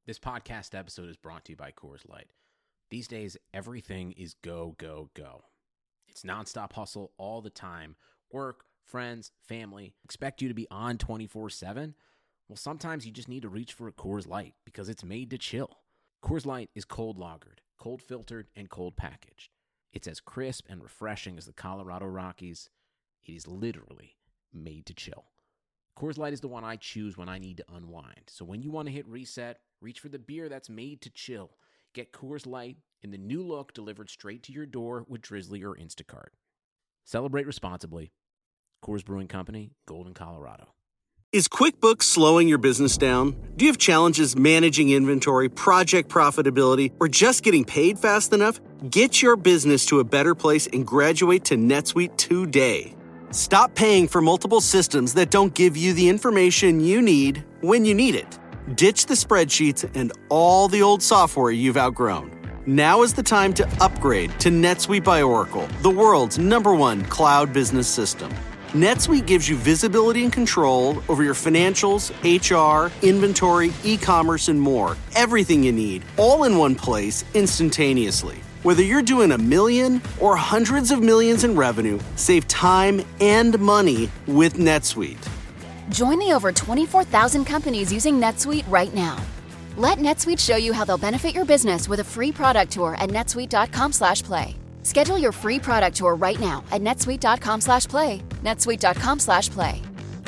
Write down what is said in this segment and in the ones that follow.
This podcast episode is brought to you by Coors Light. These days, everything is go, go, go. It's nonstop hustle all the time. Work, friends, family, expect you to be on 24/7. Well, sometimes you just need to reach for a Coors Light because it's made to chill. Coors Light is cold lagered, cold filtered, and cold packaged. It's as crisp and refreshing as the Colorado Rockies. It is literally made to chill. Coors Light is the one I choose when I need to unwind. So when you want to hit reset, reach for the beer that's made to chill. Get Coors Light in the new look delivered straight to your door with Drizzly or Instacart. Celebrate responsibly. Coors Brewing Company, Golden, Colorado. Is QuickBooks slowing your business down? Do you have challenges managing inventory, project profitability, or just getting paid fast enough? Get your business to a better place and graduate to NetSuite today. Stop paying for multiple systems that don't give you the information you need when you need it. Ditch the spreadsheets and all the old software you've outgrown. Now is the time to upgrade to NetSuite by Oracle, the world's #1 cloud business system. NetSuite gives you visibility and control over your financials, HR, inventory, e-commerce, and more. Everything you need, all in one place, instantaneously. Whether you're doing $1 million or hundreds of millions in revenue, save time and money with NetSuite. Join the over 24,000 companies using NetSuite right now. Let NetSuite show you how they'll benefit your business with a free product tour at netsuite.com/play. Schedule your free product tour right now at netsuite.com/play. netsuite.com/play.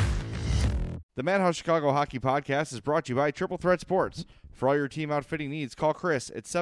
The Madhouse Chicago Hockey Podcast is brought to you by Triple Threat Sports. For all your team outfitting needs, call Chris at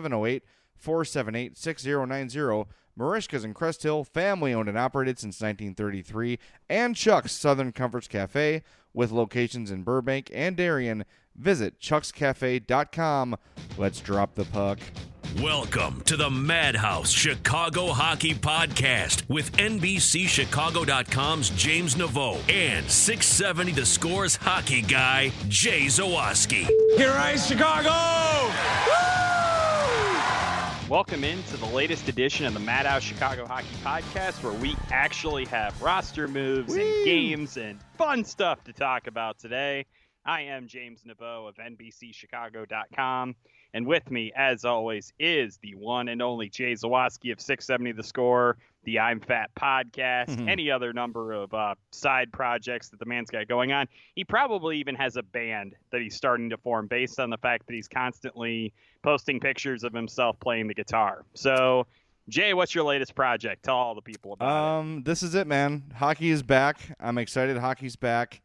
708-478-6090. Marishka's in Crest Hill, family-owned and operated since 1933. And Chuck's Southern Comforts Cafe, with locations in Burbank and Darien. Visit chuckscafe.com. Let's drop the puck. Welcome to the Madhouse Chicago Hockey Podcast with NBCChicago.com's James Naveau and 670 The Score's hockey guy, Jay Zawaski. Here I Chicago! Woo! Welcome into the latest edition of the Madhouse Chicago Hockey Podcast, where we actually have roster moves and games and fun stuff to talk about today. I am James Naveau of NBCChicago.com, and with me, as always, is the one and only Jay Zawaski of 670 The Score, the I'm Fat Podcast, any other number of side projects that the man's got going on. He probably even has a band that he's starting to form based on the fact that he's constantly posting pictures of himself playing the guitar. So, Jay, what's your latest project? Tell all the people about it. This is it, man. Hockey is back. I'm excited hockey's back.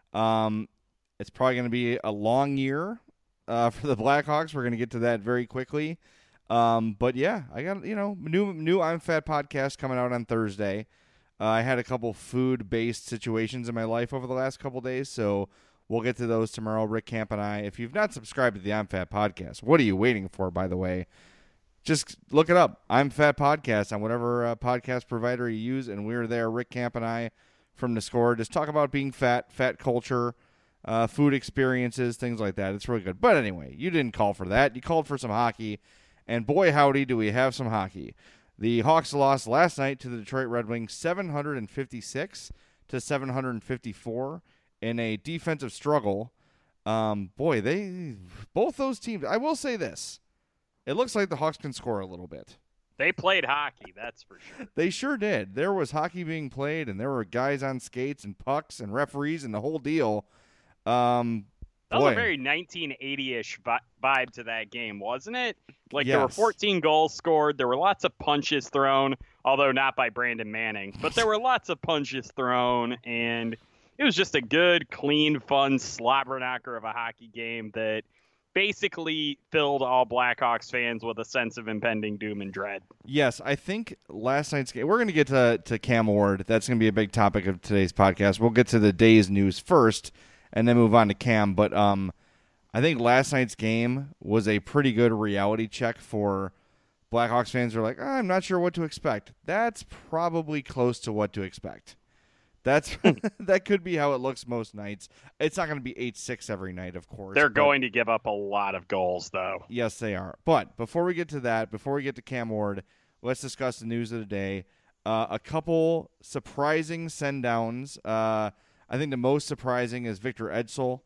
It's probably going to be a long year for the Blackhawks. We're going to get to that very quickly. But yeah, I got, new I'm Fat podcast coming out on Thursday. I had a couple food-based situations in my life over the last couple days, so we'll get to those tomorrow. Rick Camp and I. If you've not subscribed to the I'm Fat podcast, what are you waiting for, by the way? Just look it up. I'm Fat Podcast on whatever podcast provider you use, and we're there, Rick Camp and I from The Score. Just talk about being fat culture, food experiences, things like that. It's really good. But anyway, you didn't call for that. You called for some hockey, and boy, howdy, do we have some hockey. The Hawks lost last night to the Detroit Red Wings 756-754 in a defensive struggle. Both those teams, I will say this. It looks like the Hawks can score a little bit. They played hockey, that's for sure. They sure did. There was hockey being played, and there were guys on skates and pucks and referees and the whole deal. That was a very 1980-ish vibe to that game, wasn't it? Like, There were 14 goals scored. There were lots of punches thrown, although not by Brandon Manning. But there were lots of punches thrown, and it was just a good, clean, fun slobber knocker of a hockey game that basically filled all Blackhawks fans with a sense of impending doom and dread. Yes, I think last night's game, we're going to get to Cam Ward. That's going to be a big topic of today's podcast. We'll get to the day's news first and then move on to Cam. But I think last night's game was a pretty good reality check for Blackhawks fans who are like, I'm not sure what to expect. That's probably close to what to expect. That could be how it looks most nights. It's not going to be 8-6 every night, of course. They're going to give up a lot of goals, though. Yes, they are. But before we get to that, before we get to Cam Ward, let's discuss the news of the day. A couple surprising send-downs. I think the most surprising is Victor Edsel,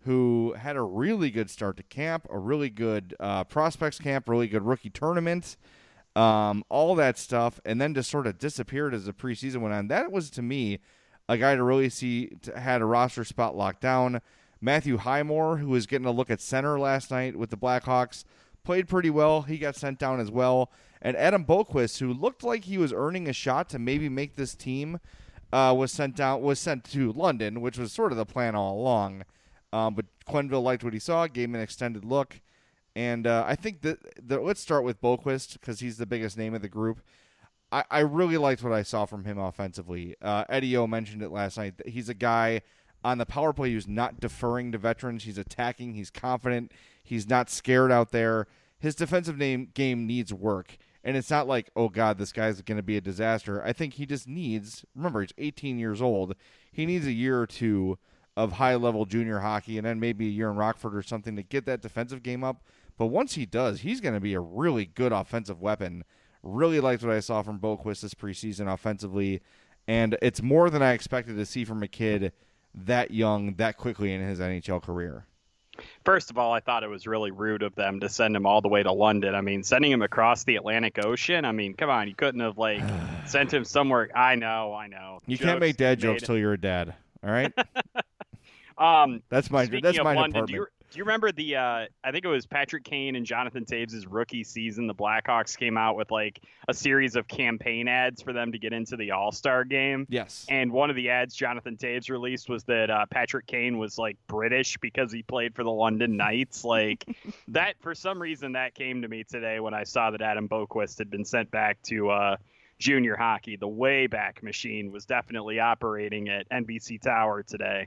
who had a really good start to camp, a really good prospects camp, really good rookie tournament, all that stuff, and then just sort of disappeared as the preseason went on. That was, to me, a guy to really see had a roster spot locked down. Matthew Highmore, who was getting a look at center last night with the Blackhawks, played pretty well. He got sent down as well. And Adam Boqvist, who looked like he was earning a shot to maybe make this team, was sent to London, which was sort of the plan all along. But Quenneville liked what he saw, gave him an extended look. And I think that let's start with Boqvist because he's the biggest name of the group. I really liked what I saw from him offensively. Eddie O mentioned it last night. He's a guy on the power play who's not deferring to veterans. He's attacking. He's confident. He's not scared out there. His defensive game needs work. And it's not like, oh, God, this guy's going to be a disaster. I think he just needs, remember, he's 18 years old. He needs a year or two of high-level junior hockey and then maybe a year in Rockford or something to get that defensive game up. But once he does, he's going to be a really good offensive weapon. Really liked what I saw from Boqvist this preseason offensively. And it's more than I expected to see from a kid that young, that quickly in his NHL career. First of all, I thought it was really rude of them to send him all the way to London. I mean, sending him across the Atlantic Ocean. I mean, come on, you couldn't have sent him somewhere. I know. You can't make dad jokes till you're a dad. All right. That's my London, department. Do you remember the? I think it was Patrick Kane and Jonathan Toews' rookie season. The Blackhawks came out with a series of campaign ads for them to get into the All-Star game. Yes. And one of the ads Jonathan Toews released was that Patrick Kane was British because he played for the London Knights. That for some reason that came to me today when I saw that Adam Boqvist had been sent back to junior hockey. The Wayback Machine was definitely operating at NBC Tower today.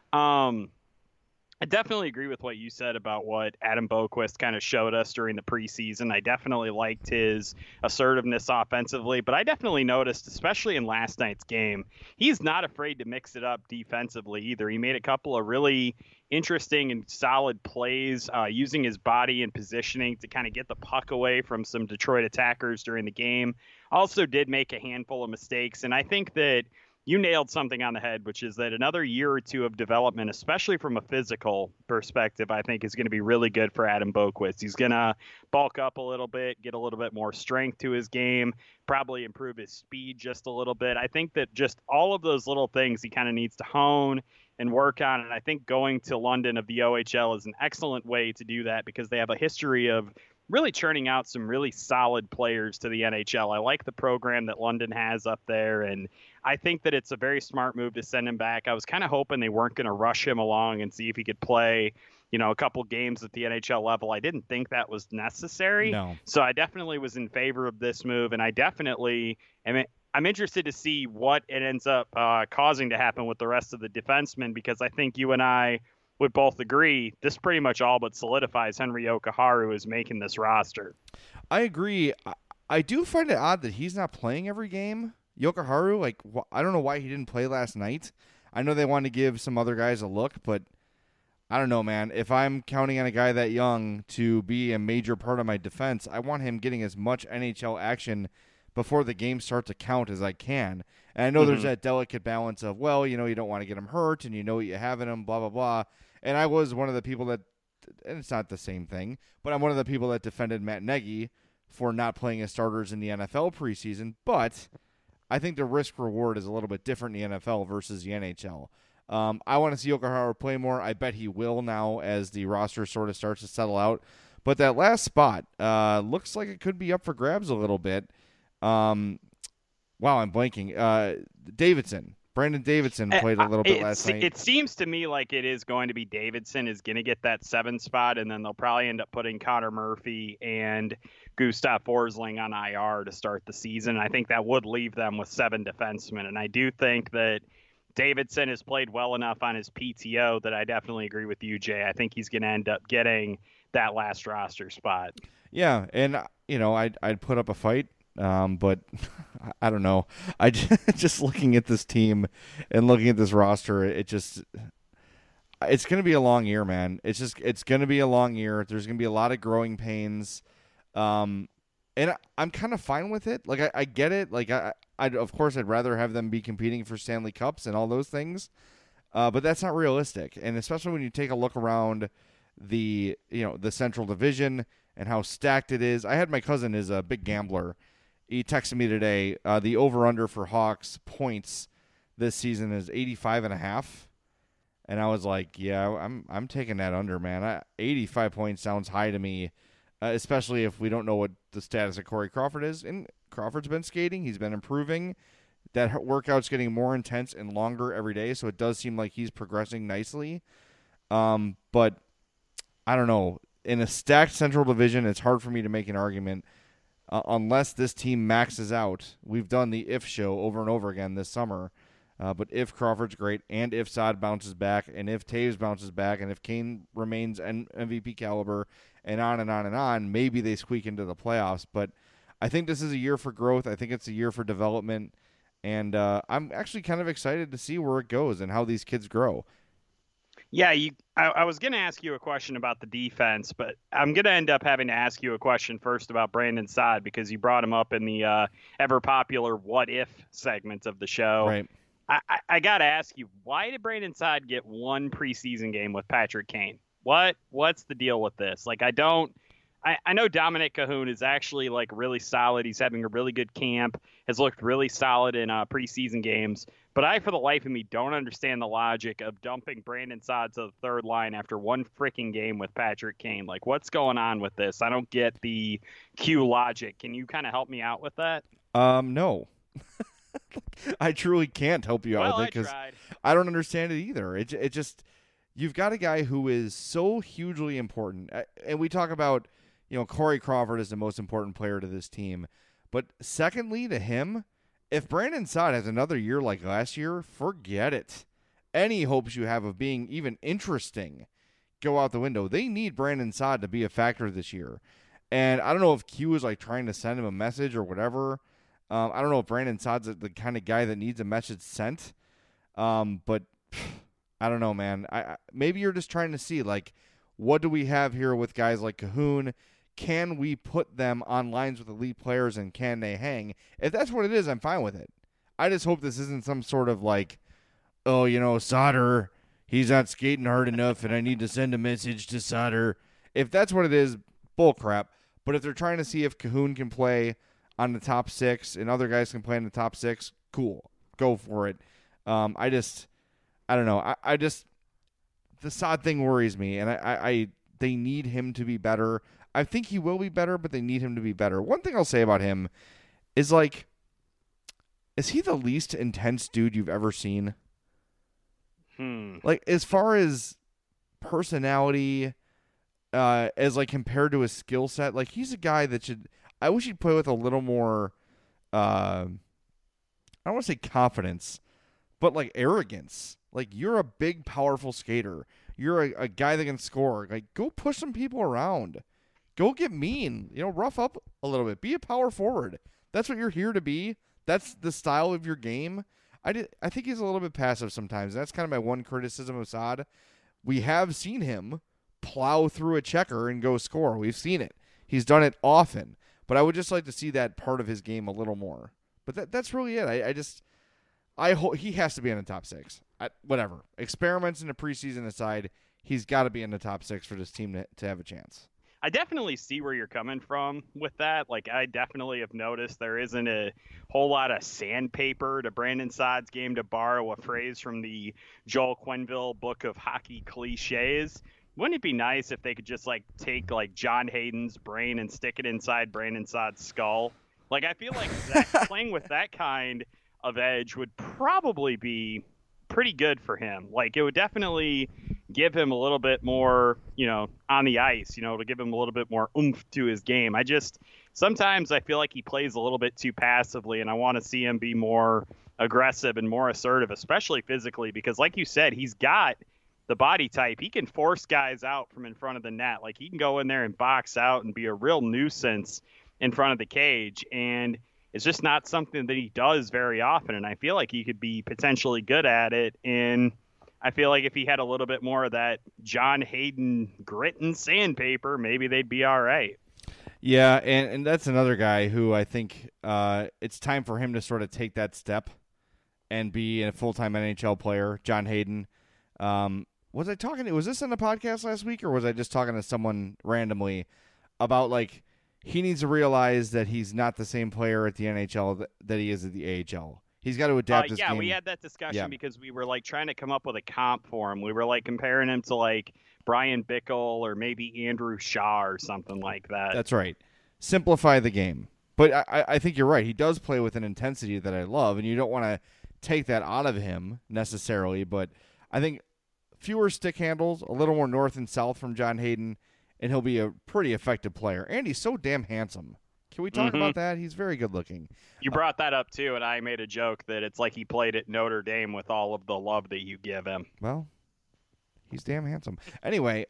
I definitely agree with what you said about what Adam Boqvist kind of showed us during the preseason. I definitely liked his assertiveness offensively, but I definitely noticed, especially in last night's game, he's not afraid to mix it up defensively either. He made a couple of really interesting and solid plays using his body and positioning to kind of get the puck away from some Detroit attackers during the game. Also did make a handful of mistakes, and I think that you nailed something on the head, which is that another year or two of development, especially from a physical perspective, I think is going to be really good for Adam Boqvist. He's going to bulk up a little bit, get a little bit more strength to his game, probably improve his speed just a little bit. I think that just all of those little things he kind of needs to hone and work on. And I think going to London of the OHL is an excellent way to do that because they have a history of really churning out some really solid players to the NHL. I like the program that London has up there, and I think that it's a very smart move to send him back. I was kind of hoping they weren't going to rush him along and see if he could play, a couple games at the NHL level. I didn't think that was necessary. No. So I definitely was in favor of this move, and I'm interested to see what it ends up causing to happen with the rest of the defensemen, because I think you and I would both agree this pretty much all but solidifies Henri Jokiharju as making this roster. I agree. I do find it odd that he's not playing every game. Jokiharju, I don't know why he didn't play last night. I know they wanted to give some other guys a look, but I don't know, man. If I'm counting on a guy that young to be a major part of my defense, I want him getting as much NHL action before the games start to count as I can. And I know there's that delicate balance of, you don't want to get him hurt and you know what you have in him, blah, blah, blah. And I was one of the people that, and it's not the same thing, but I'm one of the people that defended Matt Nagy for not playing his starters in the NFL preseason. But I think the risk reward is a little bit different in the NFL versus the NHL. I want to see Jokiharju play more. I bet he will now as the roster sort of starts to settle out. But that last spot looks like it could be up for grabs a little bit. I'm blanking. Brandon Davidson played a little bit last night. It seems to me like it is going to be Davidson is going to get that 7 spot, and then they'll probably end up putting Connor Murphy and Gustav Forsling on IR to start the season. I think that would leave them with 7 defensemen, and I do think that Davidson has played well enough on his PTO that I definitely agree with you, Jay. I think he's going to end up getting that last roster spot. Yeah, and I'd put up a fight. But I don't know. I just looking at this team and looking at this roster, it's going to be a long year, man. It's going to be a long year. There's going to be a lot of growing pains. And I'm kind of fine with it. I get it. Of course I'd rather have them be competing for Stanley Cups and all those things. But that's not realistic, and especially when you take a look around the Central Division and how stacked it is. I had my cousin is a big gambler. He texted me today. The over/under for Hawks points this season is 85.5, and I was like, yeah, I'm taking that under, man. 85 points sounds high to me, especially if we don't know what the status of Corey Crawford is. And Crawford's been skating; he's been improving. That workout's getting more intense and longer every day, so it does seem like he's progressing nicely. But I don't know. In a stacked Central Division, it's hard for me to make an argument unless this team maxes out. We've done the if show over and over again this summer. But if Crawford's great, and if Saad bounces back, and if Taves bounces back, and if Kane remains MVP caliber, and on and on and on, maybe they squeak into the playoffs. But I think this is a year for growth. I think it's a year for development. And I'm actually kind of excited to see where it goes and how these kids grow. Yeah, I was going to ask you a question about the defense, but I'm going to end up having to ask you a question first about Brandon Saad because you brought him up in the ever-popular What If segment of the show. Right. I got to ask you, why did Brandon Saad get one preseason game with Patrick Kane? What's the deal with this? Like, I know Dominic Cahoon is actually like really solid. He's having a really good camp, has looked really solid in preseason games. But I, for the life of me, don't understand the logic of dumping Brandon Saad to the third line after one freaking game with Patrick Kane. Like, what's going on with this? I don't get the Q logic. Can you kind of help me out with that? No. I truly can't help you out with it because I don't understand it either. It just, you've got a guy who is so hugely important. And we talk about, Corey Crawford is the most important player to this team. But secondly to him, if Brandon Saad has another year like last year, forget it. Any hopes you have of being even interesting go out the window. They need Brandon Saad to be a factor this year. And I don't know if Q is like trying to send him a message or whatever. I don't know if Brandon Saad's the kind of guy that needs a message sent. But I don't know, man. Maybe you're just trying to see, like, what do we have here with guys like Cahoon? Can we put them on lines with elite players, and can they hang? If that's what it is, I'm fine with it. I just hope this isn't some sort of like, Sauter, he's not skating hard enough, and I need to send a message to Sauter. If that's what it is, bullcrap. But if they're trying to see if Cahoon can play on the top six and other guys can play in the top six, cool. Go for it. I don't know. The Saad thing worries me, and they need him to be better. I think he will be better, but they need him to be better. One thing I'll say about him is, like, is he the least intense dude you've ever seen? Like, as far as personality, as, like, compared to his skill set, like, he's a guy that I wish he'd play with a little more, I don't want to say confidence, but, like, arrogance. Like, you're a big, powerful skater. You're a guy that can score. Like, go push some people around. Go get mean. Rough up a little bit. Be a power forward. That's what you're here to be. That's the style of your game. I think he's a little bit passive sometimes. That's kind of my one criticism of Saad. We have seen him plow through a checker and go score. We've seen it. He's done it often. But I would just like to see that part of his game a little more. But that's really it. I hope he has to be in the top six. Whatever. Experiments in the preseason aside, he's got to be in the top six for this team to have a chance. I definitely see where you're coming from with that. Like, I definitely have noticed there isn't a whole lot of sandpaper to Brandon Saad's game, to borrow a phrase from the Joel Quenneville book of hockey cliches. Wouldn't it be nice if they could just, like, take, like, John Hayden's brain and stick it inside Brandon Saad's skull? Like, I feel like playing with that kind of edge would probably be pretty good for him. Like, it would definitely give him a little bit more, on the ice, to give him a little bit more oomph to his game. Sometimes I feel like he plays a little bit too passively, and I want to see him be more aggressive and more assertive, especially physically, because like you said, he's got the body type. He can force guys out from in front of the net. Like, he can go in there and box out and be a real nuisance in front of the cage, and it's just not something that he does very often, and I feel like he could be potentially good at it. And I feel like if he had a little bit more of that John Hayden grit and sandpaper, maybe they'd be all right. Yeah, and that's another guy who I think it's time for him to sort of take that step and be a full-time NHL player, John Hayden. Was this in a podcast last week, or was I just talking to someone randomly about, like, he needs to realize that he's not the same player at the NHL that he is at the AHL. He's got to adapt his game. Yeah, we had that discussion because we were, like, trying to come up with a comp for him. We were, like, comparing him to, like, Brian Bickle or maybe Andrew Shaw or something like that. That's right. Simplify the game. But I think you're right. He does play with an intensity that I love, and you don't want to take that out of him necessarily. But I think fewer stick handles, a little more north and south from John Hayden, and he'll be a pretty effective player. And he's so damn handsome. Can we talk about that? He's very good looking. You brought that up, too, and I made a joke that it's like he played at Notre Dame with all of the love that you give him. Well, he's damn handsome. Anyway,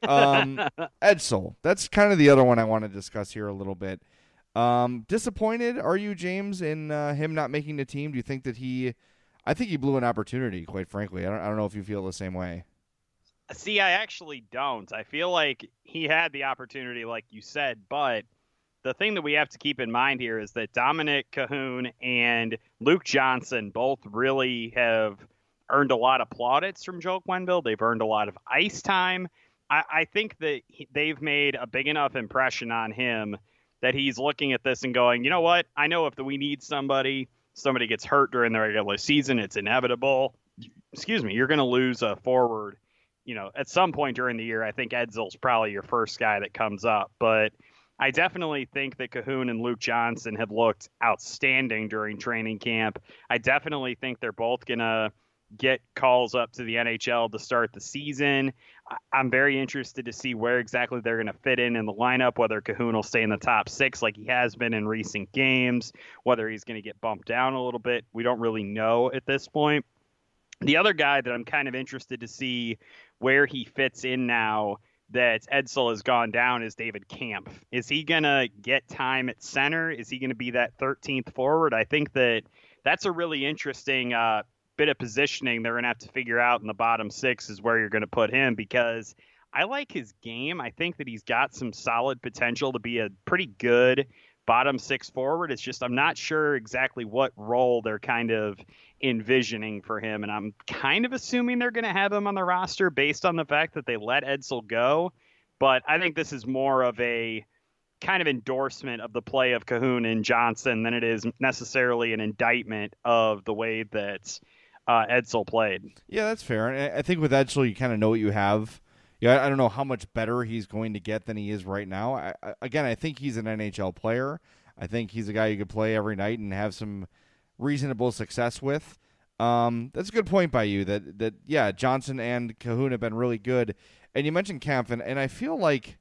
Edsel. That's kind of the other one I want to discuss here a little bit. Disappointed, are you, James, in him not making the team? Do you think that I think he blew an opportunity, quite frankly. I don't know if you feel the same way. See, I actually don't. I feel like he had the opportunity, like you said, but the thing that we have to keep in mind here is that Dominic Cahoon and Luke Johnson both really have earned a lot of plaudits from Joe Quenneville. They've earned a lot of ice time. I think that they've made a big enough impression on him that he's looking at this and going, you know what? I know if we need somebody gets hurt during the regular season, it's inevitable. You're going to lose a forward, at some point during the year. I think Edsel's probably your first guy that comes up, but I definitely think that Cahoon and Luke Johnson have looked outstanding during training camp. I definitely think they're both going to get calls up to the NHL to start the season. I'm very interested to see where exactly they're going to fit in the lineup, whether Cahoon will stay in the top 6 like he has been in recent games, whether he's going to get bumped down a little bit. We don't really know at this point. The other guy that I'm kind of interested to see where he fits in now that Edsel has gone down is David Kampf. Is he going to get time at center? Is he going to be that 13th forward? I think that's a really interesting bit of positioning they're going to have to figure out in the bottom 6 is where you're going to put him, because I like his game. I think that he's got some solid potential to be a pretty good bottom 6 forward. It's just I'm not sure exactly what role they're kind of envisioning for him, and I'm kind of assuming they're going to have him on the roster based on the fact that they let Edsel go. But I think this is more of a kind of endorsement of the play of Cahoon and Johnson than it is necessarily an indictment of the way that Edsel played. Yeah, that's fair. And I think with Edsel, you kind of know what you have. Yeah, I don't know how much better he's going to get than he is right now. I think he's an NHL player. I think he's a guy you could play every night and have some reasonable success with. That's a good point by you that Johnson and Cahoon have been really good. And you mentioned Kampf, and I feel like,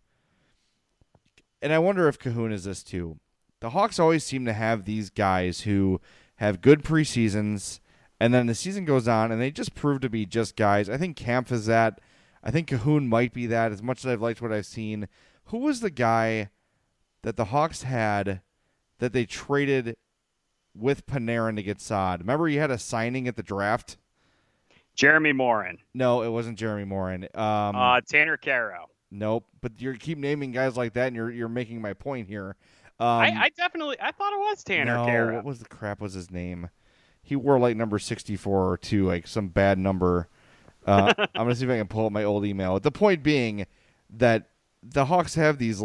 and I wonder if Cahoon is this too. The Hawks always seem to have these guys who have good preseasons, and then the season goes on, and they just prove to be just guys. I think Kampf is that. I think Cahoon might be that, as much as I've liked what I've seen. Who was the guy that the Hawks had that they traded with Panarin to get Saad? Remember he had a signing at the draft? Jeremy Morin. No, it wasn't Jeremy Morin. Tanner Caro. Nope, but you keep naming guys like that, and you're making my point here. I thought it was Tanner Caro. What was the crap was his name? He wore like number 64 or 2, like some bad number. I'm going to see if I can pull up my old email. The point being that the Hawks have these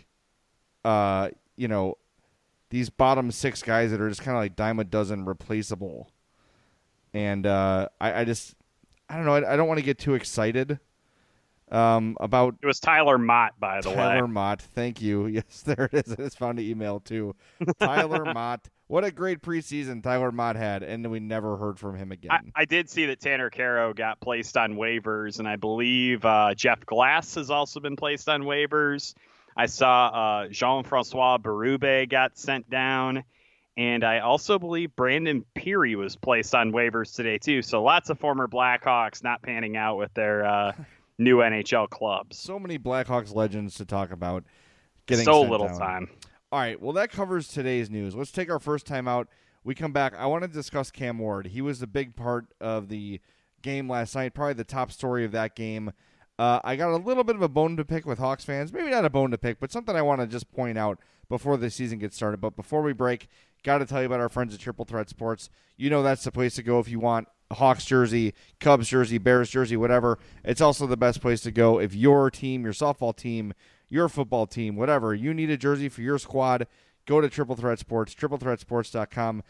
these bottom 6 guys that are just kind of like dime a dozen replaceable. And I don't know. I don't want to get too excited about. It was Tyler Mott, by the way. Tyler Mott. Thank you. Yes, there it is. I just found the email too. Tyler Mott. What a great preseason Tyler Mott had, and we never heard from him again. I did see that Tanner Caro got placed on waivers, and I believe Jeff Glass has also been placed on waivers. I saw Jean-Francois Berube got sent down, and I also believe Brandon Peary was placed on waivers today too. So lots of former Blackhawks not panning out with their new NHL clubs. So many Blackhawks legends to talk about. Getting so sent little down. time. All right, well, that covers today's news. Let's take our first time out. We come back. I want to discuss Cam Ward. He was a big part of the game last night, probably the top story of that game. I got a little bit of a bone to pick with Hawks fans. Maybe not a bone to pick, but something I want to just point out before the season gets started. But before we break, got to tell you about our friends at Triple Threat Sports. You know that's the place to go if you want Hawks jersey, Cubs jersey, Bears jersey, whatever. It's also the best place to go if your team, your softball team, your football team, whatever, you need a jersey for your squad. Go to Triple Threat Sports, triplethreatsports.com,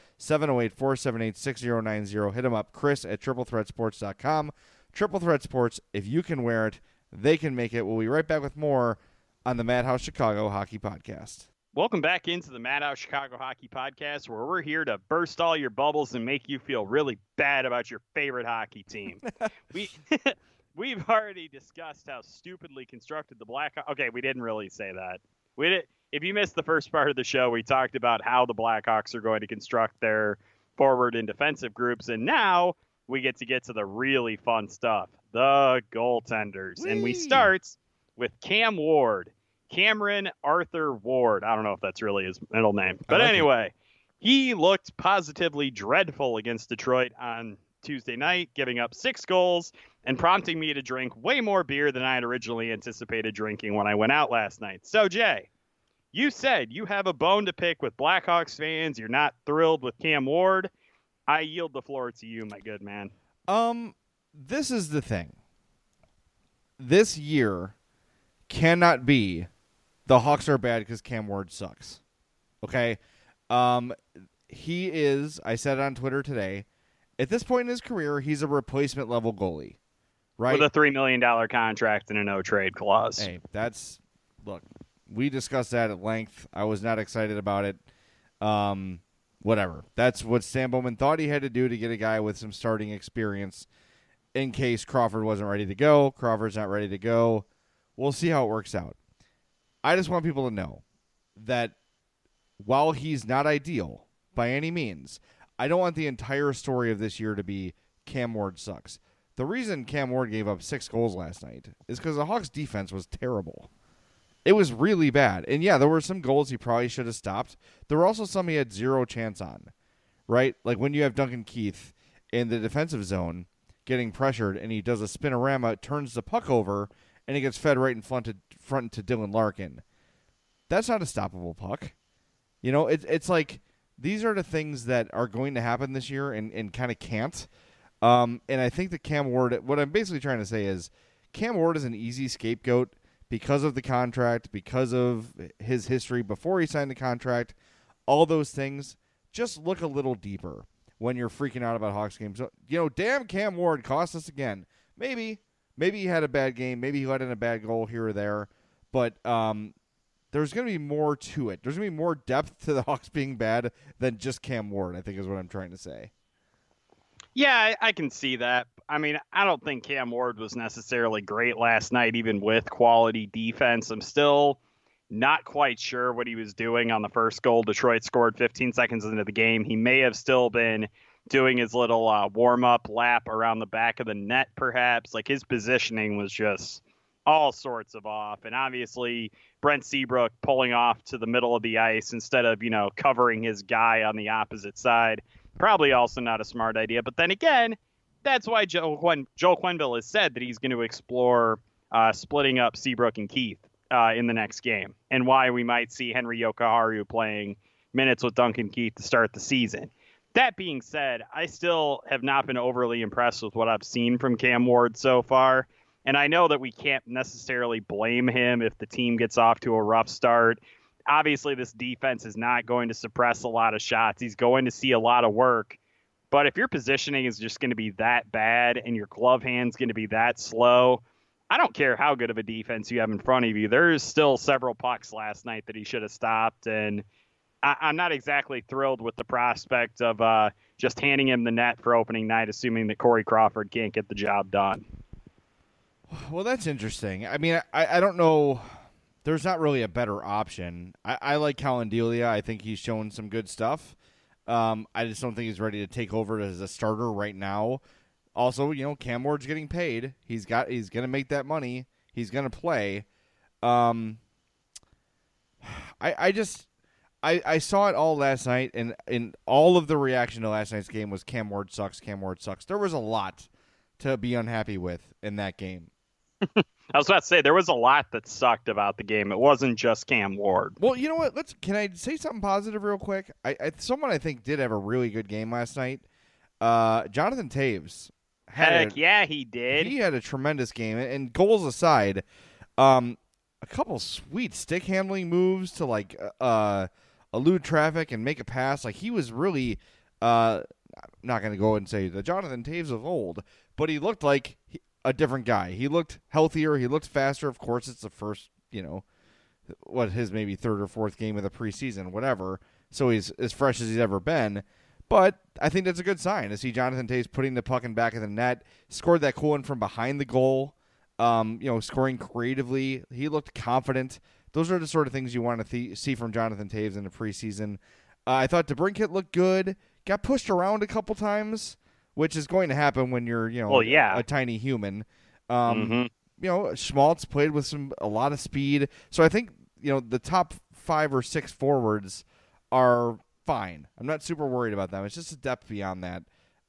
708-478-6090. Hit them up, Chris at triplethreatsports.com. Triple Threat Sports, if you can wear it, they can make it. We'll be right back with more on the Madhouse Chicago Hockey Podcast. Welcome back into the Madhouse Chicago Hockey Podcast, where we're here to burst all your bubbles and make you feel really bad about your favorite hockey team. We've already discussed how stupidly constructed the Blackhawks. Okay, we didn't really say that. If you missed the first part of the show, we talked about how the Blackhawks are going to construct their forward and defensive groups, and now we get to the really fun stuff, the goaltenders. Whee! And we start with Cam Ward. Cameron Arthur Ward. I don't know if that's really his middle name. But anyway, he looked positively dreadful against Detroit on Tuesday night, giving up 6 goals and prompting me to drink way more beer than I had originally anticipated drinking when I went out last night. So, Jay, you said you have a bone to pick with Blackhawks fans. You're not thrilled with Cam Ward. I yield the floor to you, my good man. This is the thing. This year cannot be the Hawks are bad because Cam Ward sucks. Okay? He is, I said it on Twitter today, at this point in his career, he's a replacement level goalie. Right? With a $3 million contract and a no-trade clause. Hey, look, we discussed that at length. I was not excited about it. Whatever. That's what Stan Bowman thought he had to do to get a guy with some starting experience in case Crawford wasn't ready to go. Crawford's not ready to go. We'll see how it works out. I just want people to know that while he's not ideal by any means, I don't want the entire story of this year to be Cam Ward sucks. The reason Cam Ward gave up 6 goals last night is because the Hawks' defense was terrible. It was really bad. And, yeah, there were some goals he probably should have stopped. There were also some he had zero chance on, right? Like when you have Duncan Keith in the defensive zone getting pressured and he does a spinorama, turns the puck over, and he gets fed right in front to Dylan Larkin. That's not a stoppable puck. You know, it's like these are the things that are going to happen this year and kind of can't. And I think that Cam Ward, what I'm basically trying to say is Cam Ward is an easy scapegoat because of the contract, because of his history before he signed the contract, all those things. Just look a little deeper when you're freaking out about Hawks games. So, you know, damn, Cam Ward cost us again. Maybe he had a bad game. Maybe he let in a bad goal here or there. But there's going to be more to it. There's going to be more depth to the Hawks being bad than just Cam Ward, I think is what I'm trying to say. Yeah, I can see that. I mean, I don't think Cam Ward was necessarily great last night, even with quality defense. I'm still not quite sure what he was doing on the first goal. Detroit scored 15 seconds into the game. He may have still been doing his little warm-up lap around the back of the net, perhaps. Like, his positioning was just all sorts of off. And obviously, Brent Seabrook pulling off to the middle of the ice instead of, covering his guy on the opposite side. Probably also not a smart idea. But then again, that's why Joel Quenneville has said that he's going to explore splitting up Seabrook and Keith in the next game, and why we might see Henry Yokoharu playing minutes with Duncan Keith to start the season. That being said, I still have not been overly impressed with what I've seen from Cam Ward so far. And I know that we can't necessarily blame him if the team gets off to a rough start. Obviously, this defense is not going to suppress a lot of shots. He's going to see a lot of work. But if your positioning is just going to be that bad and your glove hand's going to be that slow, I don't care how good of a defense you have in front of you. There's still several pucks last night that he should have stopped. And I'm not exactly thrilled with the prospect of just handing him the net for opening night, assuming that Corey Crawford can't get the job done. Well, that's interesting. I mean, I don't know. There's not really a better option. I like Colin Delia. I think he's shown some good stuff. I just don't think he's ready to take over as a starter right now. Also, Cam Ward's getting paid. He's going to make that money. He's going to play. I saw it all last night, and all of the reaction to last night's game was Cam Ward sucks, Cam Ward sucks. There was a lot to be unhappy with in that game. I was about to say, there was a lot that sucked about the game. It wasn't just Cam Ward. Well, you know what? Can I say something positive real quick? Someone I think did have a really good game last night. Jonathan Toews. Heck yeah, he did. He had a tremendous game. And goals aside, a couple sweet stick handling moves to like elude traffic and make a pass. Like he was really not going to go and say the Jonathan Toews of old, but he looked like a different guy. He looked healthier. He looked faster. Of course, it's the first, his maybe third or fourth game of the preseason, whatever. So he's as fresh as he's ever been. But I think that's a good sign to see Jonathan Toews putting the puck in back of the net. Scored that cool one from behind the goal. Scoring creatively. He looked confident. Those are the sort of things you want to see from Jonathan Toews in the preseason. I thought DeBrincat looked good. Got pushed around a couple times, which is going to happen when you're, a tiny human. Schmaltz played with a lot of speed. So I think, the top 5 or 6 forwards are fine. I'm not super worried about them. It's just a depth beyond that.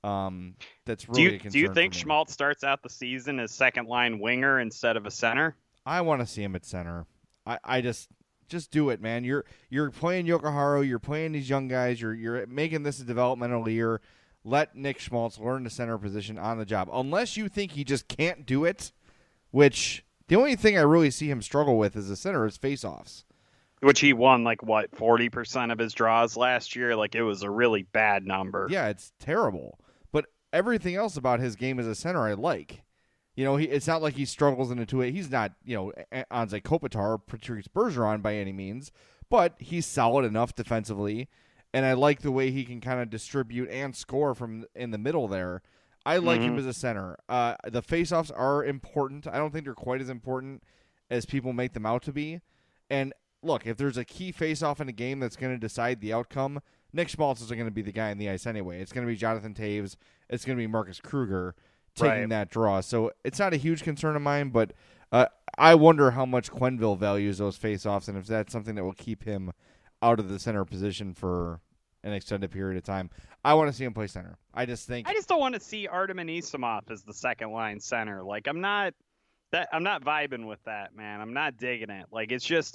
That's really a concern. Do you think for me. Schmaltz starts out the season as second line winger instead of a center? I want to see him at center. I just do it, man. You're playing Yokohara. You're playing these young guys. You're making this a developmental year. Let Nick Schmaltz learn the center position on the job. Unless you think he just can't do it, which the only thing I really see him struggle with as a center is faceoffs. Which he won 40% of his draws last year. Like it was a really bad number. Yeah, it's terrible. But everything else about his game as a center I like. It's not like he struggles into it. He's not, Anze Kopitar or Patrice Bergeron by any means, but he's solid enough defensively, and I like the way he can kind of distribute and score from in the middle there. I like him as a center. The faceoffs are important. I don't think they're quite as important as people make them out to be. And look, if there's a key faceoff in a game that's going to decide the outcome, Nick Schmaltz isn't going to be the guy on the ice anyway. It's going to be Jonathan Toews. It's going to be Marcus Kruger taking that draw. So it's not a huge concern of mine, but I wonder how much Quenneville values those faceoffs and if that's something that will keep him out of the center position for an extended period of time. I want to see him play center. I just don't want to see Artem Anisimov as the second line center. Like I'm not vibing with that, man. I'm not digging it. Like it's just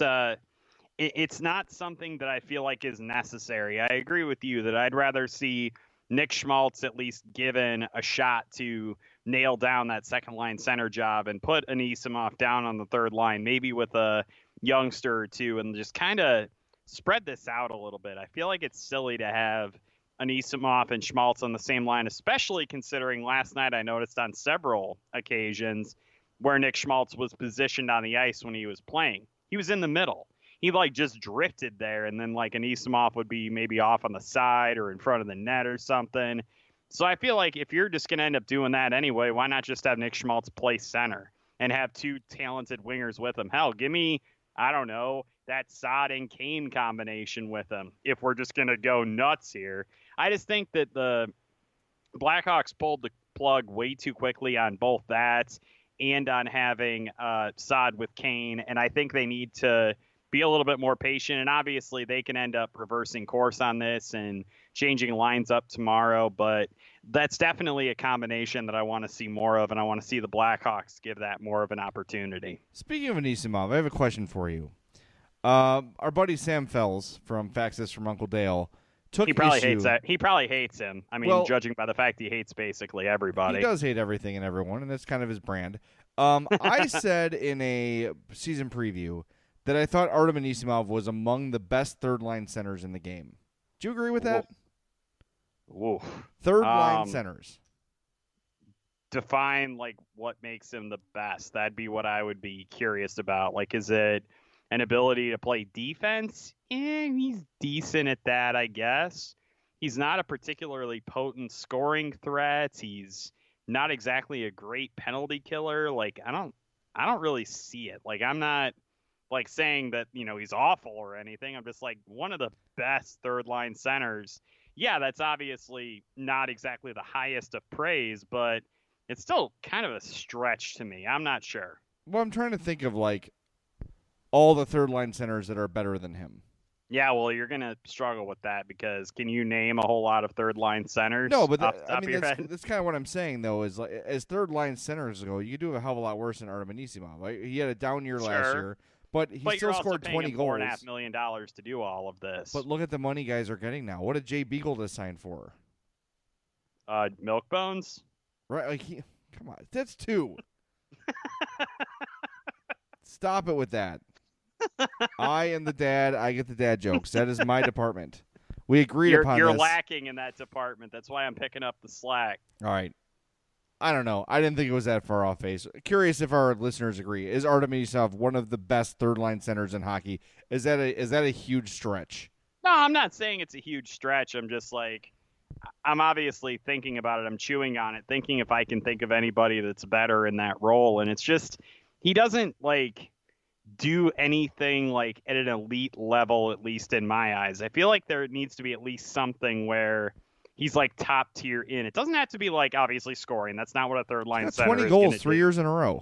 it's not something that I feel like is necessary. I agree with you that I'd rather see Nick Schmaltz at least given a shot to nail down that second line center job and put Anisimov down on the third line, maybe with a youngster or two, and just kind of spread this out a little bit. I feel like it's silly to have Anisimov and Schmaltz on the same line, especially considering last night I noticed on several occasions where Nick Schmaltz was positioned on the ice when he was playing. He was in the middle. He just drifted there, and then Anisimov would be maybe off on the side or in front of the net or something. So I feel like if you're just going to end up doing that anyway, why not just have Nick Schmaltz play center and have 2 talented wingers with him? Hell, give me, I don't know, that Saad and Kane combination with him if we're just going to go nuts here. I just think that the Blackhawks pulled the plug way too quickly on both that and on having Saad with Kane, and I think they need to be a little bit more patient, and obviously they can end up reversing course on this and changing lines up tomorrow, but that's definitely a combination that I want to see more of, and I want to see the Blackhawks give that more of an opportunity. Speaking of Anisimov, I have a question for you. Our buddy Sam Fells from Faxes from Uncle Dale took He probably issue. hates that. He probably hates him. I mean, judging by the fact he hates basically everybody. He does hate everything and everyone, and that's kind of his brand. I said in a season preview that I thought Artem Anisimov was among the best third-line centers in the game. Do you agree with that? Woof. Third-line centers. Define, what makes him the best. That'd be what I would be curious about. Is it an ability to play defense? He's decent at that, I guess. He's not a particularly potent scoring threat. He's not exactly a great penalty killer. I don't really see it. I'm not saying that, he's awful or anything. I'm just one of the best third line centers. Yeah, that's obviously not exactly the highest of praise, but it's still kind of a stretch to me. I'm not sure. Well, I'm trying to think of all the third line centers that are better than him. Yeah, well, you're going to struggle with that because can you name a whole lot of third line centers? No, but that's kind of what I'm saying, though, is as third line centers go, you do a hell of a lot worse than Artem Anisimov. He had a down year last year. But he still scored 20 goals. $4.5 million to do all of this. But look at the money guys are getting now. What did Jay Beagle just sign for? Milk Bones. Right? Like, come on, that's 2. Stop it with that. I am the dad. I get the dad jokes. That is my department. We agreed upon You're this. lacking in that department. That's why I'm picking up the slack. All right. I don't know. I didn't think it was that far off base. Curious if our listeners agree. Is Artem Ilisov one of the best third-line centers in hockey? Is that a huge stretch? No, I'm not saying it's a huge stretch. I'm just like, I'm obviously thinking about it. I'm chewing on it, thinking if I can think of anybody that's better in that role. And it's just, he doesn't like do anything like at an elite level, at least in my eyes. I feel like there needs to be at least something where he's like top tier in. It doesn't have to be like obviously scoring. That's not what a third line center 20 is. 20 goals 3 years in a row.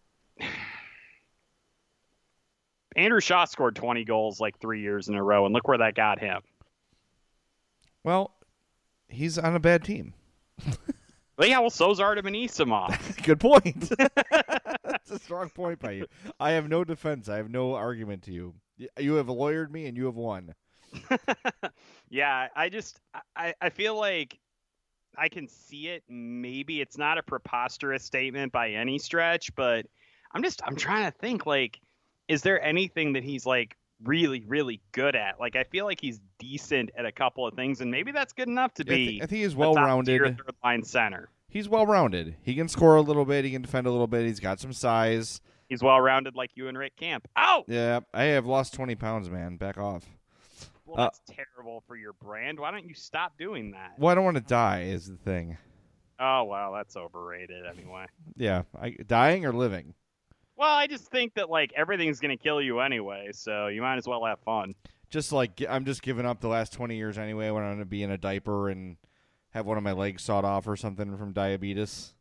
Andrew Shaw scored 20 goals like 3 years in a row, and look where that got him. Well, he's on a bad team. Well, yeah, well, so's Artem Anisimov. Good point. That's a strong point by you. I have no defense. I have no argument to you. You have lawyered me, and you have won. Yeah, I feel like I can see it. Maybe it's not a preposterous statement by any stretch, but I'm trying to think, like, is there anything that he's like really, really good at? Like, I feel like he's decent at a couple of things, and maybe that's good enough to be. I think he's well-rounded. Third line center. He's well-rounded. He can score a little bit. He can defend a little bit. He's got some size. He's well-rounded like you and Rick Camp. Ow! Yeah, I have lost 20 pounds, man. Back off. Well, that's terrible for your brand. Why don't you stop doing that? Well, I don't want to die is the thing. Oh, well, that's overrated anyway. Yeah, dying or living? Well, I just think that, like, everything's going to kill you anyway, so you might as well have fun. Just like, I'm just giving up the last 20 years anyway when I'm going to be in a diaper and have one of my legs sawed off or something from diabetes.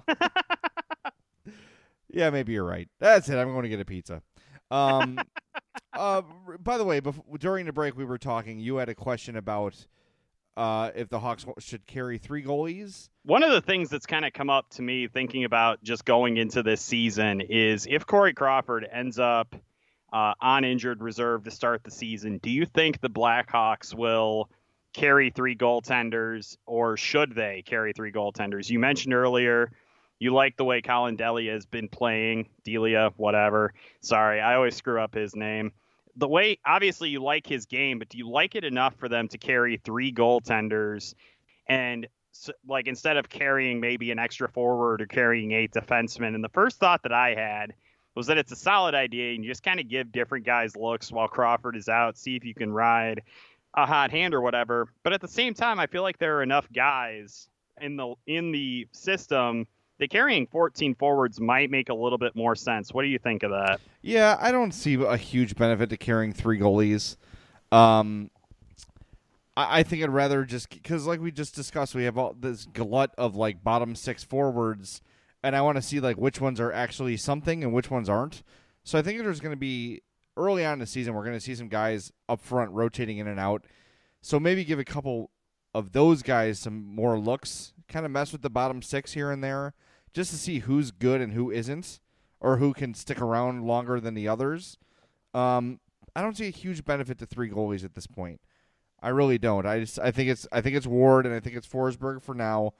Yeah, maybe you're right. That's it. I'm going to get a pizza. By the way, during the break we were talking, you had a question about if the Hawks should carry 3 goalies. One of the things that's kind of come up to me thinking about just going into this season is if Corey Crawford ends up on injured reserve to start the season, do you think the Blackhawks will carry 3 goaltenders, or should they carry 3 goaltenders? You mentioned earlier you like the way Colin Delia has been playing. Delia, whatever. Sorry, I always screw up his name. The way, obviously, you like his game, but do you like it enough for them to carry 3 goaltenders and, like, instead of carrying maybe an extra forward or carrying 8 defensemen? And the first thought that I had was that it's a solid idea, and you just kind of give different guys looks while Crawford is out, see if you can ride a hot hand or whatever. But at the same time, I feel like there are enough guys in the system that carrying 14 forwards might make a little bit more sense. What do you think of that? Yeah, I don't see a huge benefit to carrying 3 goalies. I think I'd rather just, because like we just discussed, we have all this glut of like bottom 6 forwards, and I want to see like which ones are actually something and which ones aren't. So I think there's going to be, early on in the season, we're going to see some guys up front rotating in and out. So maybe give a couple of those guys some more looks, kind of mess with the bottom 6 here and there, just to see who's good and who isn't, or who can stick around longer than the others. I don't see a huge benefit to 3 goalies at this point. I really don't. I think it's Ward and I think it's Forsberg for now.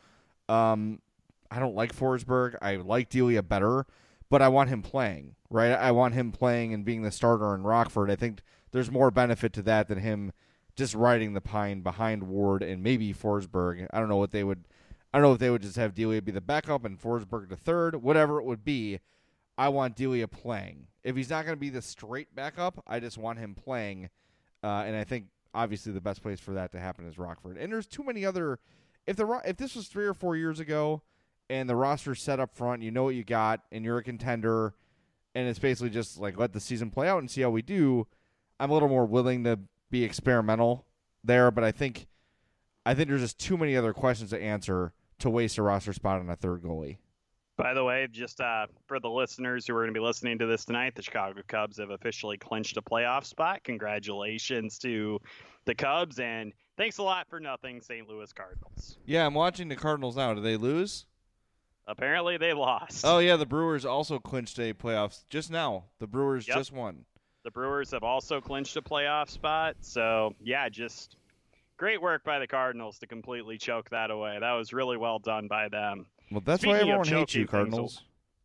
I don't like Forsberg. I like Delia better, but I want him playing, right? I want him playing and being the starter in Rockford. I think there's more benefit to that than him just riding the pine behind Ward and maybe Forsberg. I don't know if they would just have Delia be the backup and Forsberg the third, whatever it would be. I want Delia playing. If he's not going to be the straight backup, I just want him playing. And I think obviously the best place for that to happen is Rockford. And there's too many other. If this was 3 or 4 years ago, and the roster's set up front, you know what you got, and you're a contender, and it's basically just like let the season play out and see how we do. I'm a little more willing to be experimental there, but I think there's just too many other questions to answer to waste a roster spot on a 3rd goalie. By the way, just for the listeners who are going to be listening to this tonight, the Chicago Cubs have officially clinched a playoff spot. Congratulations to the Cubs, and thanks a lot for nothing, St. Louis Cardinals. Yeah, I'm watching the Cardinals now. Did they lose? Apparently they lost. Oh, yeah, the Brewers also clinched a playoffs just now. The Brewers just won. The Brewers have also clinched a playoff spot. So, yeah, just Great work by the Cardinals to completely choke that away. That was really well done by them. Well, that's Speaking why of everyone hates choking you, things Cardinals.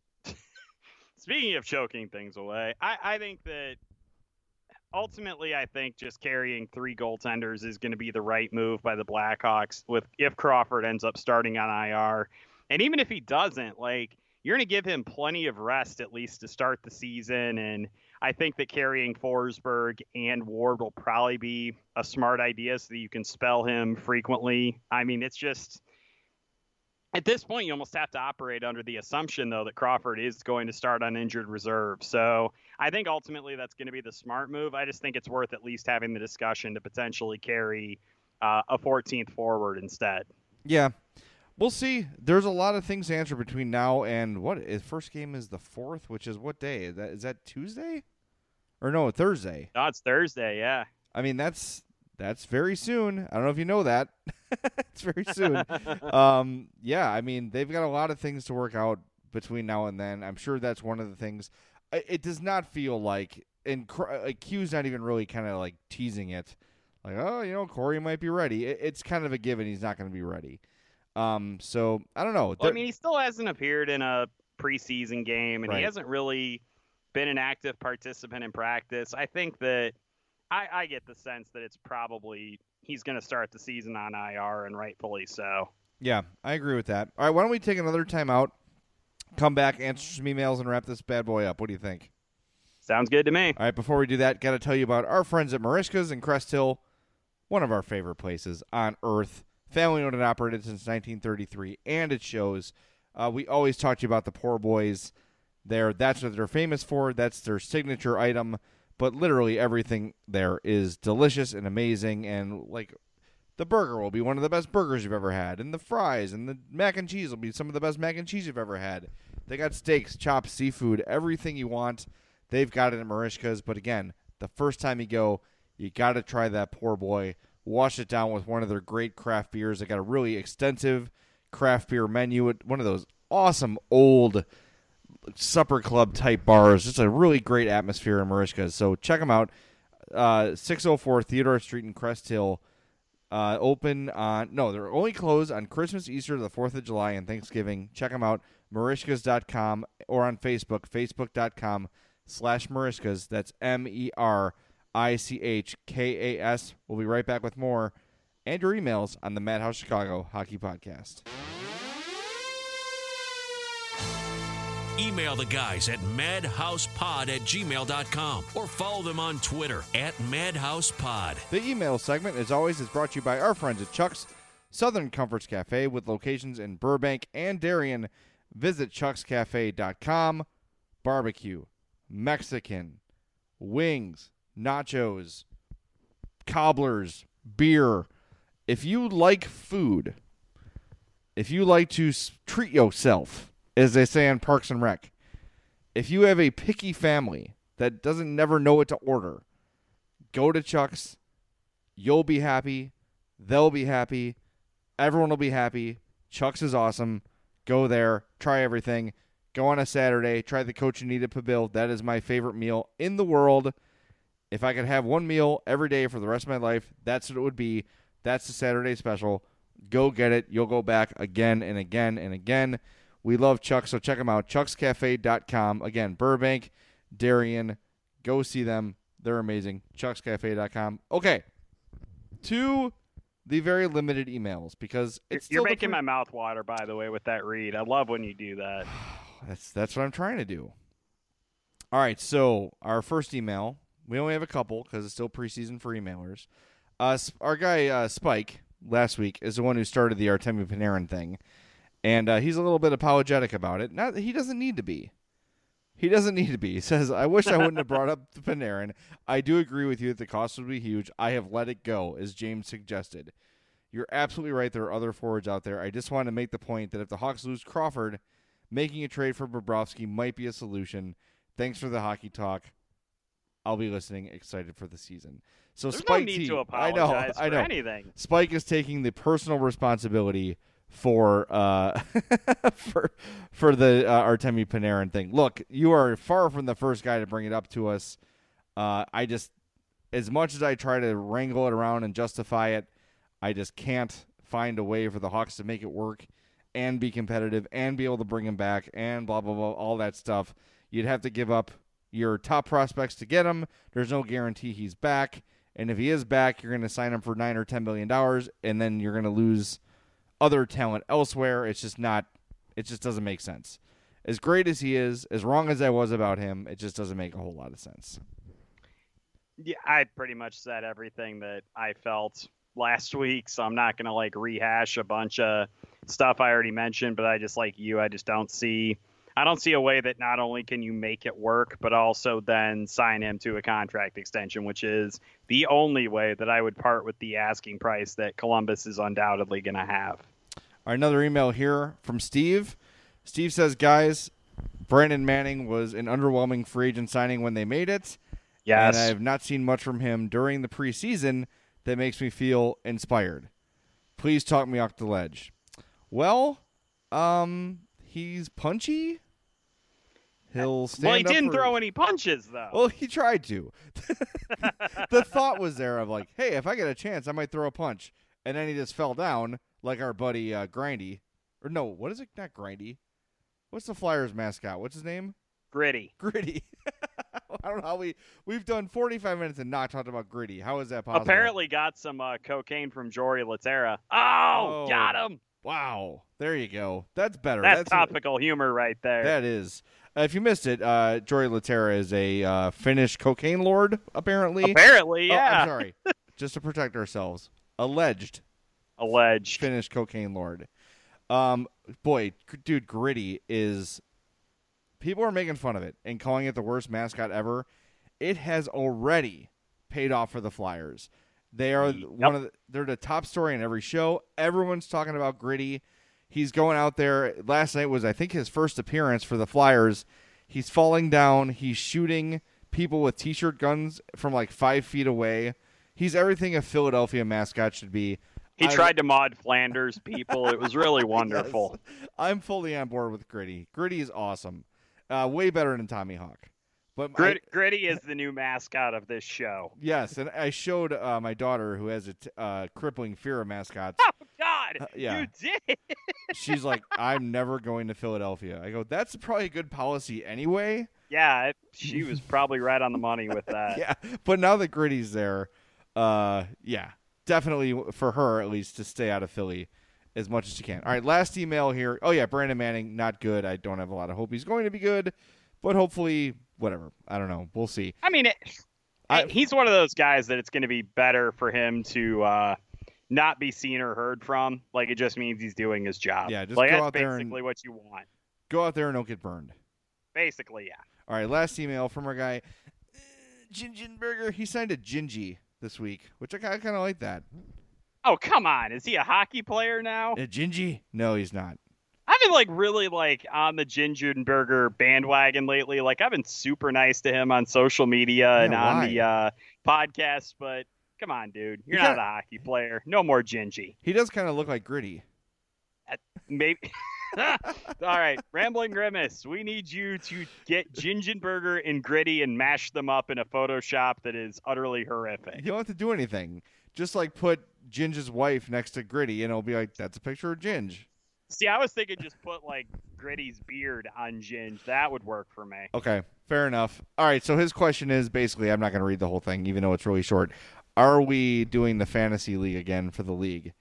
Speaking of choking things away, I think that ultimately I think just carrying 3 goaltenders is going to be the right move by the Blackhawks if Crawford ends up starting on IR. And even if he doesn't, like, you're going to give him plenty of rest at least to start the season. And I think that carrying Forsberg and Ward will probably be a smart idea so that you can spell him frequently. I mean, it's just at this point, you almost have to operate under the assumption, though, that Crawford is going to start on injured reserve. So I think ultimately that's going to be the smart move. I just think it's worth at least having the discussion to potentially carry a 14th forward instead. Yeah. We'll see. There's a lot of things to answer between now and first game is the 4th, which is what day? Is that Tuesday? Or no, Thursday. No, it's Thursday, yeah. I mean, that's very soon. I don't know if you know that. It's very soon. Yeah, I mean, they've got a lot of things to work out between now and then. I'm sure that's one of the things. It does not feel like, and Q's not even really kind of like teasing it. Like, oh, Corey might be ready. It's kind of a given he's not going to be ready. So I don't know. Well, I mean, he still hasn't appeared in a preseason game, and right. He hasn't really been an active participant in practice. I think that I get the sense that it's probably he's going to start the season on IR, and rightfully so. Yeah, I agree with that. All right, why don't we take another timeout, come back, answer some emails, and wrap this bad boy up. What do you think? Sounds good to me. All right, before we do that, got to tell you about our friends at Merichka's in Crest Hill, one of our favorite places on earth. Family owned and operated since 1933, and it shows. We always talk to you about the poor boys there. That's what they're famous for. That's their signature item. But literally everything there is delicious and amazing. And, like, the burger will be one of the best burgers you've ever had. And the fries and the mac and cheese will be some of the best mac and cheese you've ever had. They got steaks, chops, seafood, everything you want. They've got it at Merichka's. But, again, the first time you go, you got to try that poor boy. Wash it down with one of their great craft beers. They got a really extensive craft beer menu at one of those awesome old supper club type bars. Just a really great atmosphere in Merichka's. So check them out. 604 Theodore Street in Crest Hill. They're only closed on Christmas, Easter, the 4th of July, and Thanksgiving. Check them out. Merichkas.com or on Facebook, facebook.com/Merichkas. That's MERICHKAS. We'll be right back with more and your emails on the Madhouse Chicago Hockey Podcast. Email the guys at madhousepod@gmail.com or follow them on Twitter @madhousepod. The email segment, as always, is brought to you by our friends at Chuck's Southern Comforts Cafe with locations in Burbank and Darien. Visit chuckscafe.com. Barbecue, Mexican, wings, nachos, cobblers, beer. If you like food, if you like to treat yourself, as they say on Parks and Rec, if you have a picky family that doesn't never know what to order, go to Chuck's. You'll be happy. They'll be happy. Everyone will be happy. Chuck's is awesome. Go there. Try everything. Go on a Saturday. Try the Cochinita Pibil. That is my favorite meal in the world. If I could have one meal every day for the rest of my life, that's what it would be. That's the Saturday special. Go get it. You'll go back again and again and again. We love Chuck, so check them out. chuckscafe.com. Again, Burbank, Darien. Go see them. They're amazing. chuckscafe.com. Okay. To the very limited emails, because it's You're making my mouth water, by the way, with that read. I love when you do that. That's what I'm trying to do. All right, so our first email, we only have a couple because it's still preseason for emailers. Our guy, Spike, last week, is the one who started the Artemi Panarin thing. And he's a little bit apologetic about it. He doesn't need to be. He doesn't need to be. He says, I wish I wouldn't have brought up the Panarin. I do agree with you that the cost would be huge. I have let it go, as James suggested. You're absolutely right. There are other forwards out there. I just want to make the point that if the Hawks lose Crawford, making a trade for Bobrovsky might be a solution. Thanks for the hockey talk. I'll be listening, excited for the season. So There's Spike no need T, to apologize for anything. Spike is taking the personal responsibility for the Artemi Panarin thing. Look, you are far from the first guy to bring it up to us. I just, as much as I try to wrangle it around and justify it, I just can't find a way for the Hawks to make it work and be competitive and be able to bring him back and blah, blah, blah, all that stuff. You'd have to give up your top prospects to get him. There's no guarantee he's back. And if he is back, you're going to sign him for $9 or $10 million, and then you're going to lose other talent elsewhere. It just doesn't make sense. As great as he is, as wrong as I was about him, it just doesn't make a whole lot of sense. Yeah, I pretty much said everything that I felt last week, so I'm not going to rehash a bunch of stuff I already mentioned, but I just don't see a way that not only can you make it work, but also then sign him to a contract extension, which is the only way that I would part with the asking price that Columbus is undoubtedly going to have. All right, another email here from Steve. Steve says, guys, Brandon Manning was an underwhelming free agent signing when they made it. Yes. And I have not seen much from him during the preseason that makes me feel inspired. Please talk me off the ledge. Well, he's punchy. He'll stand Well, he up didn't for... throw any punches, though. Well, he tried to. The thought was there of hey, if I get a chance, I might throw a punch. And then he just fell down like our buddy Grindy. Or no, what is it? Not Grindy. What's the Flyers mascot? What's his name? Gritty. Gritty. I don't know how we've done 45 minutes and not talked about Gritty. How is that possible? Apparently got some cocaine from Jory Laterra. Oh, got him. Wow. There you go. That's better. That's topical humor right there. That is. If you missed it, Jory Laterra is a Finnish cocaine lord, apparently. Apparently, yeah. Oh, I'm sorry. Just to protect ourselves. Alleged Finnish cocaine lord. Boy, dude, Gritty is... People are making fun of it and calling it the worst mascot ever. It has already paid off for the Flyers. They are they're the top story in every show. Everyone's talking about Gritty. He's going out there. Last night was, I think, his first appearance for the Flyers. He's falling down. He's shooting people with T-shirt guns from 5 feet away. He's everything a Philadelphia mascot should be. He tried to mod Flanders people. It was really wonderful. Yes. I'm fully on board with Gritty. Gritty is awesome. Way better than Tommy Hawk. But Gritty is the new mascot of this show. Yes, and I showed my daughter, who has a crippling fear of mascots. Oh, God, yeah. You did. She's like, I'm never going to Philadelphia. I go, that's probably a good policy anyway. Yeah, she was probably right on the money with that. Yeah, but now that Gritty's there, yeah, definitely for her, at least, to stay out of Philly as much as she can. All right, last email here. Oh, yeah, Brandon Manning, not good. I don't have a lot of hope he's going to be good, but hopefully, whatever. I don't know. We'll see. I mean, he's one of those guys that it's going to be better for him to not be seen or heard from. It just means he's doing his job. Yeah, just go out that's there basically what you want. Go out there and don't get burned. Basically, yeah. All right, last email from our guy, Gingenberger. He signed a Gingy this week, which I kind of like that. Oh, come on. Is he a hockey player now? A Gingy? No, he's not. I've been really on the Gingenberger bandwagon lately. I've been super nice to him on social media and on the podcast, but come on, dude. You're not a hockey player. No more Gingy. He does kind of look like Gritty. Maybe. All right, Rambling Grimace. We need you to get Gingenberger and Gritty and mash them up in a Photoshop that is utterly horrific. You don't have to do anything. Just put Ginge's wife next to Gritty, and it'll be that's a picture of Ginge. See, I was thinking just put Gritty's beard on Ginge. That would work for me. Okay, fair enough. All right, so his question is basically, I'm not going to read the whole thing, even though it's really short. Are we doing the fantasy league again for the league?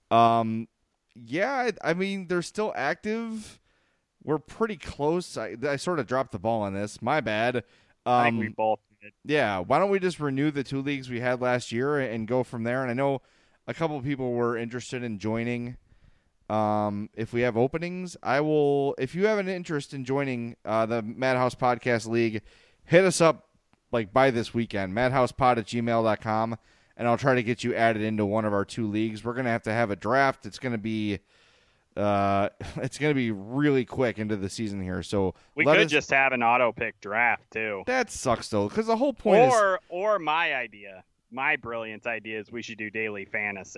Yeah, I mean, they're still active. We're pretty close. I sort of dropped the ball on this. My bad. I think we both did. Yeah, why don't we just renew the 2 leagues we had last year and go from there? And I know a couple of people were interested in joining. If we have openings, I will. If you have an interest in joining the Madhouse Podcast League, hit us up by this weekend, madhousepod@gmail.com, and I'll try to get you added into one of our 2 leagues. We're gonna have a draft. It's gonna be really quick into the season here. So we could just have an auto pick draft too. That sucks though, because the whole point is my idea. My brilliant idea is we should do daily fantasy.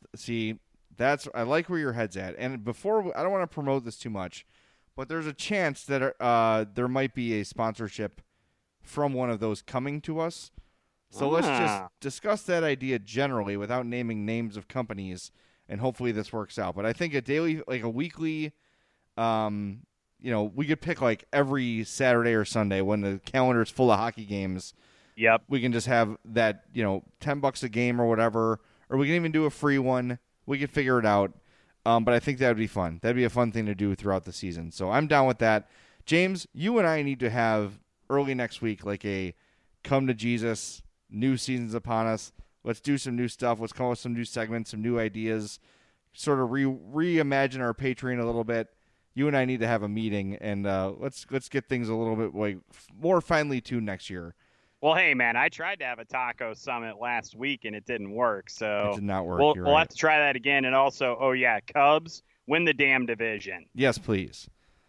I like where your head's at. And before, I don't want to promote this too much, but there's a chance that there might be a sponsorship from one of those coming to us. So let's just discuss that idea generally without naming names of companies, and hopefully this works out. But I think a weekly, we could pick like every Saturday or Sunday when the calendar is full of hockey games. Yep. We can just have that, $10 a game or whatever, or we can even do a free one. We could figure it out. But I think that would be fun. That'd be a fun thing to do throughout the season. So I'm down with that. James, you and I need to have early next week like a come to Jesus, new season's upon us. Let's do some new stuff. Let's come up with some new segments, some new ideas, sort of reimagine our Patreon a little bit. You and I need to have a meeting, and let's get things a little bit more finely tuned next year. Well, hey, man, I tried to have a taco summit last week, and it didn't work. So it did not work. We'll have to try that again. And also, Cubs win the damn division. Yes, please.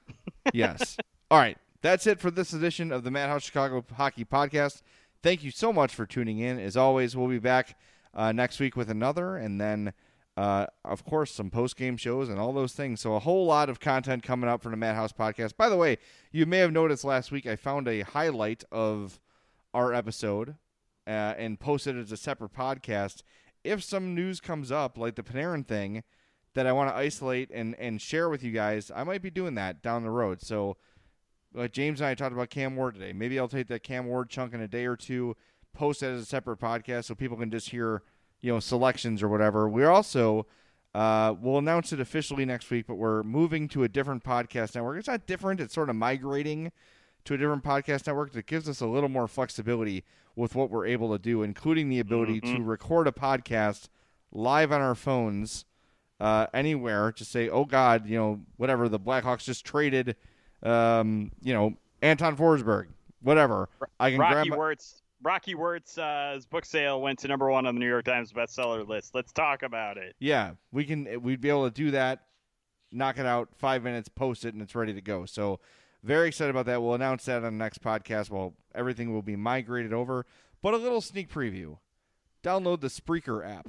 Yes. All right. That's it for this edition of the Madhouse Chicago Hockey Podcast. Thank you so much for tuning in. As always, we'll be back next week with another, and then, of course, some post-game shows and all those things. So a whole lot of content coming up for the Madhouse Podcast. By the way, you may have noticed last week I found a highlight of our episode and posted it as a separate podcast. If some news comes up, like the Panarin thing, that I want to isolate and share with you guys, I might be doing that down the road. So James and I talked about Cam Ward today. Maybe I'll take that Cam Ward chunk in a day or two, post it as a separate podcast so people can just hear, selections or whatever. We're also, we'll announce it officially next week, but we're moving to a different podcast network. It's not different. It's sort of migrating to a different podcast network that gives us a little more flexibility with what we're able to do, including the ability to record a podcast live on our phones anywhere. Just say, oh, God, whatever, the Blackhawks just traded, Anton Forsberg, whatever. I can Rocky Wirtz's book sale went to number 1 on the New York Times bestseller list. Let's talk about it. Yeah, we'd be able to do that, knock it out, 5 minutes, post it, and it's ready to go. So very excited about that. We'll announce that on the next podcast. Well, everything will be migrated over. But a little sneak preview. Download the Spreaker app,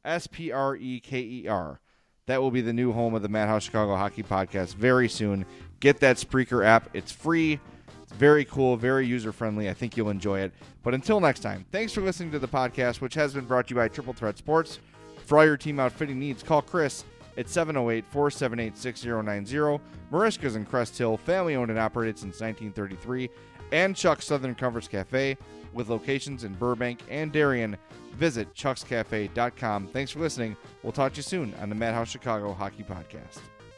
Spreker. That will be the new home of the Madhouse Chicago Hockey Podcast very soon. Get that Spreaker app. It's free. It's very cool, very user-friendly. I think you'll enjoy it. But until next time, thanks for listening to the podcast, which has been brought to you by Triple Threat Sports. For all your team outfitting needs, call Chris at 708-478-6090. Marishka's in Crest Hill, family-owned and operated since 1933. And Chuck's Southern Comforts Cafe, with locations in Burbank and Darien. Visit chuckscafe.com. Thanks for listening. We'll talk to you soon on the Madhouse Chicago Hockey Podcast.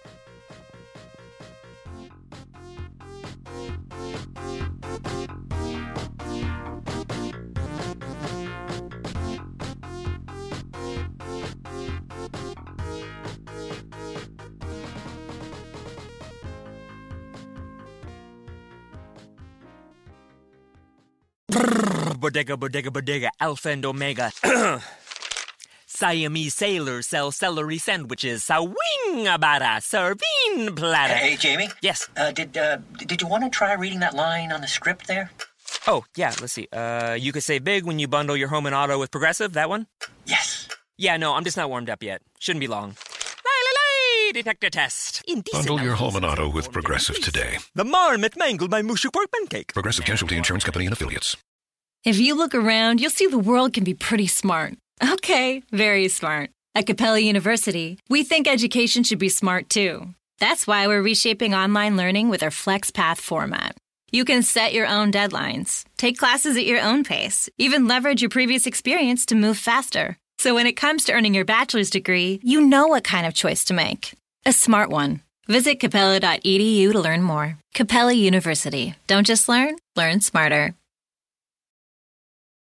Bodega, Alpha and Omega. Siamese sailors sell celery sandwiches. Sawing-a-bada, serving platter. Hey, Jamie? Yes? Did you want to try reading that line on the script there? Oh, yeah, let's see. You could save big when you bundle your home and auto with Progressive, that one? Yes. Yeah, no, I'm just not warmed up yet. Shouldn't be long. Detector test. Bundle your home and auto with Progressive today. The marmot mangled my mushy pork pancake. Progressive Casualty Insurance Company and Affiliates. If you look around, you'll see the world can be pretty smart. Okay, very smart. At Capella University, we think education should be smart too. That's why we're reshaping online learning with our FlexPath format. You can set your own deadlines, take classes at your own pace, even leverage your previous experience to move faster. So when it comes to earning your bachelor's degree, you know what kind of choice to make. A smart one. Visit capella.edu to learn more. Capella University. Don't just learn, learn smarter.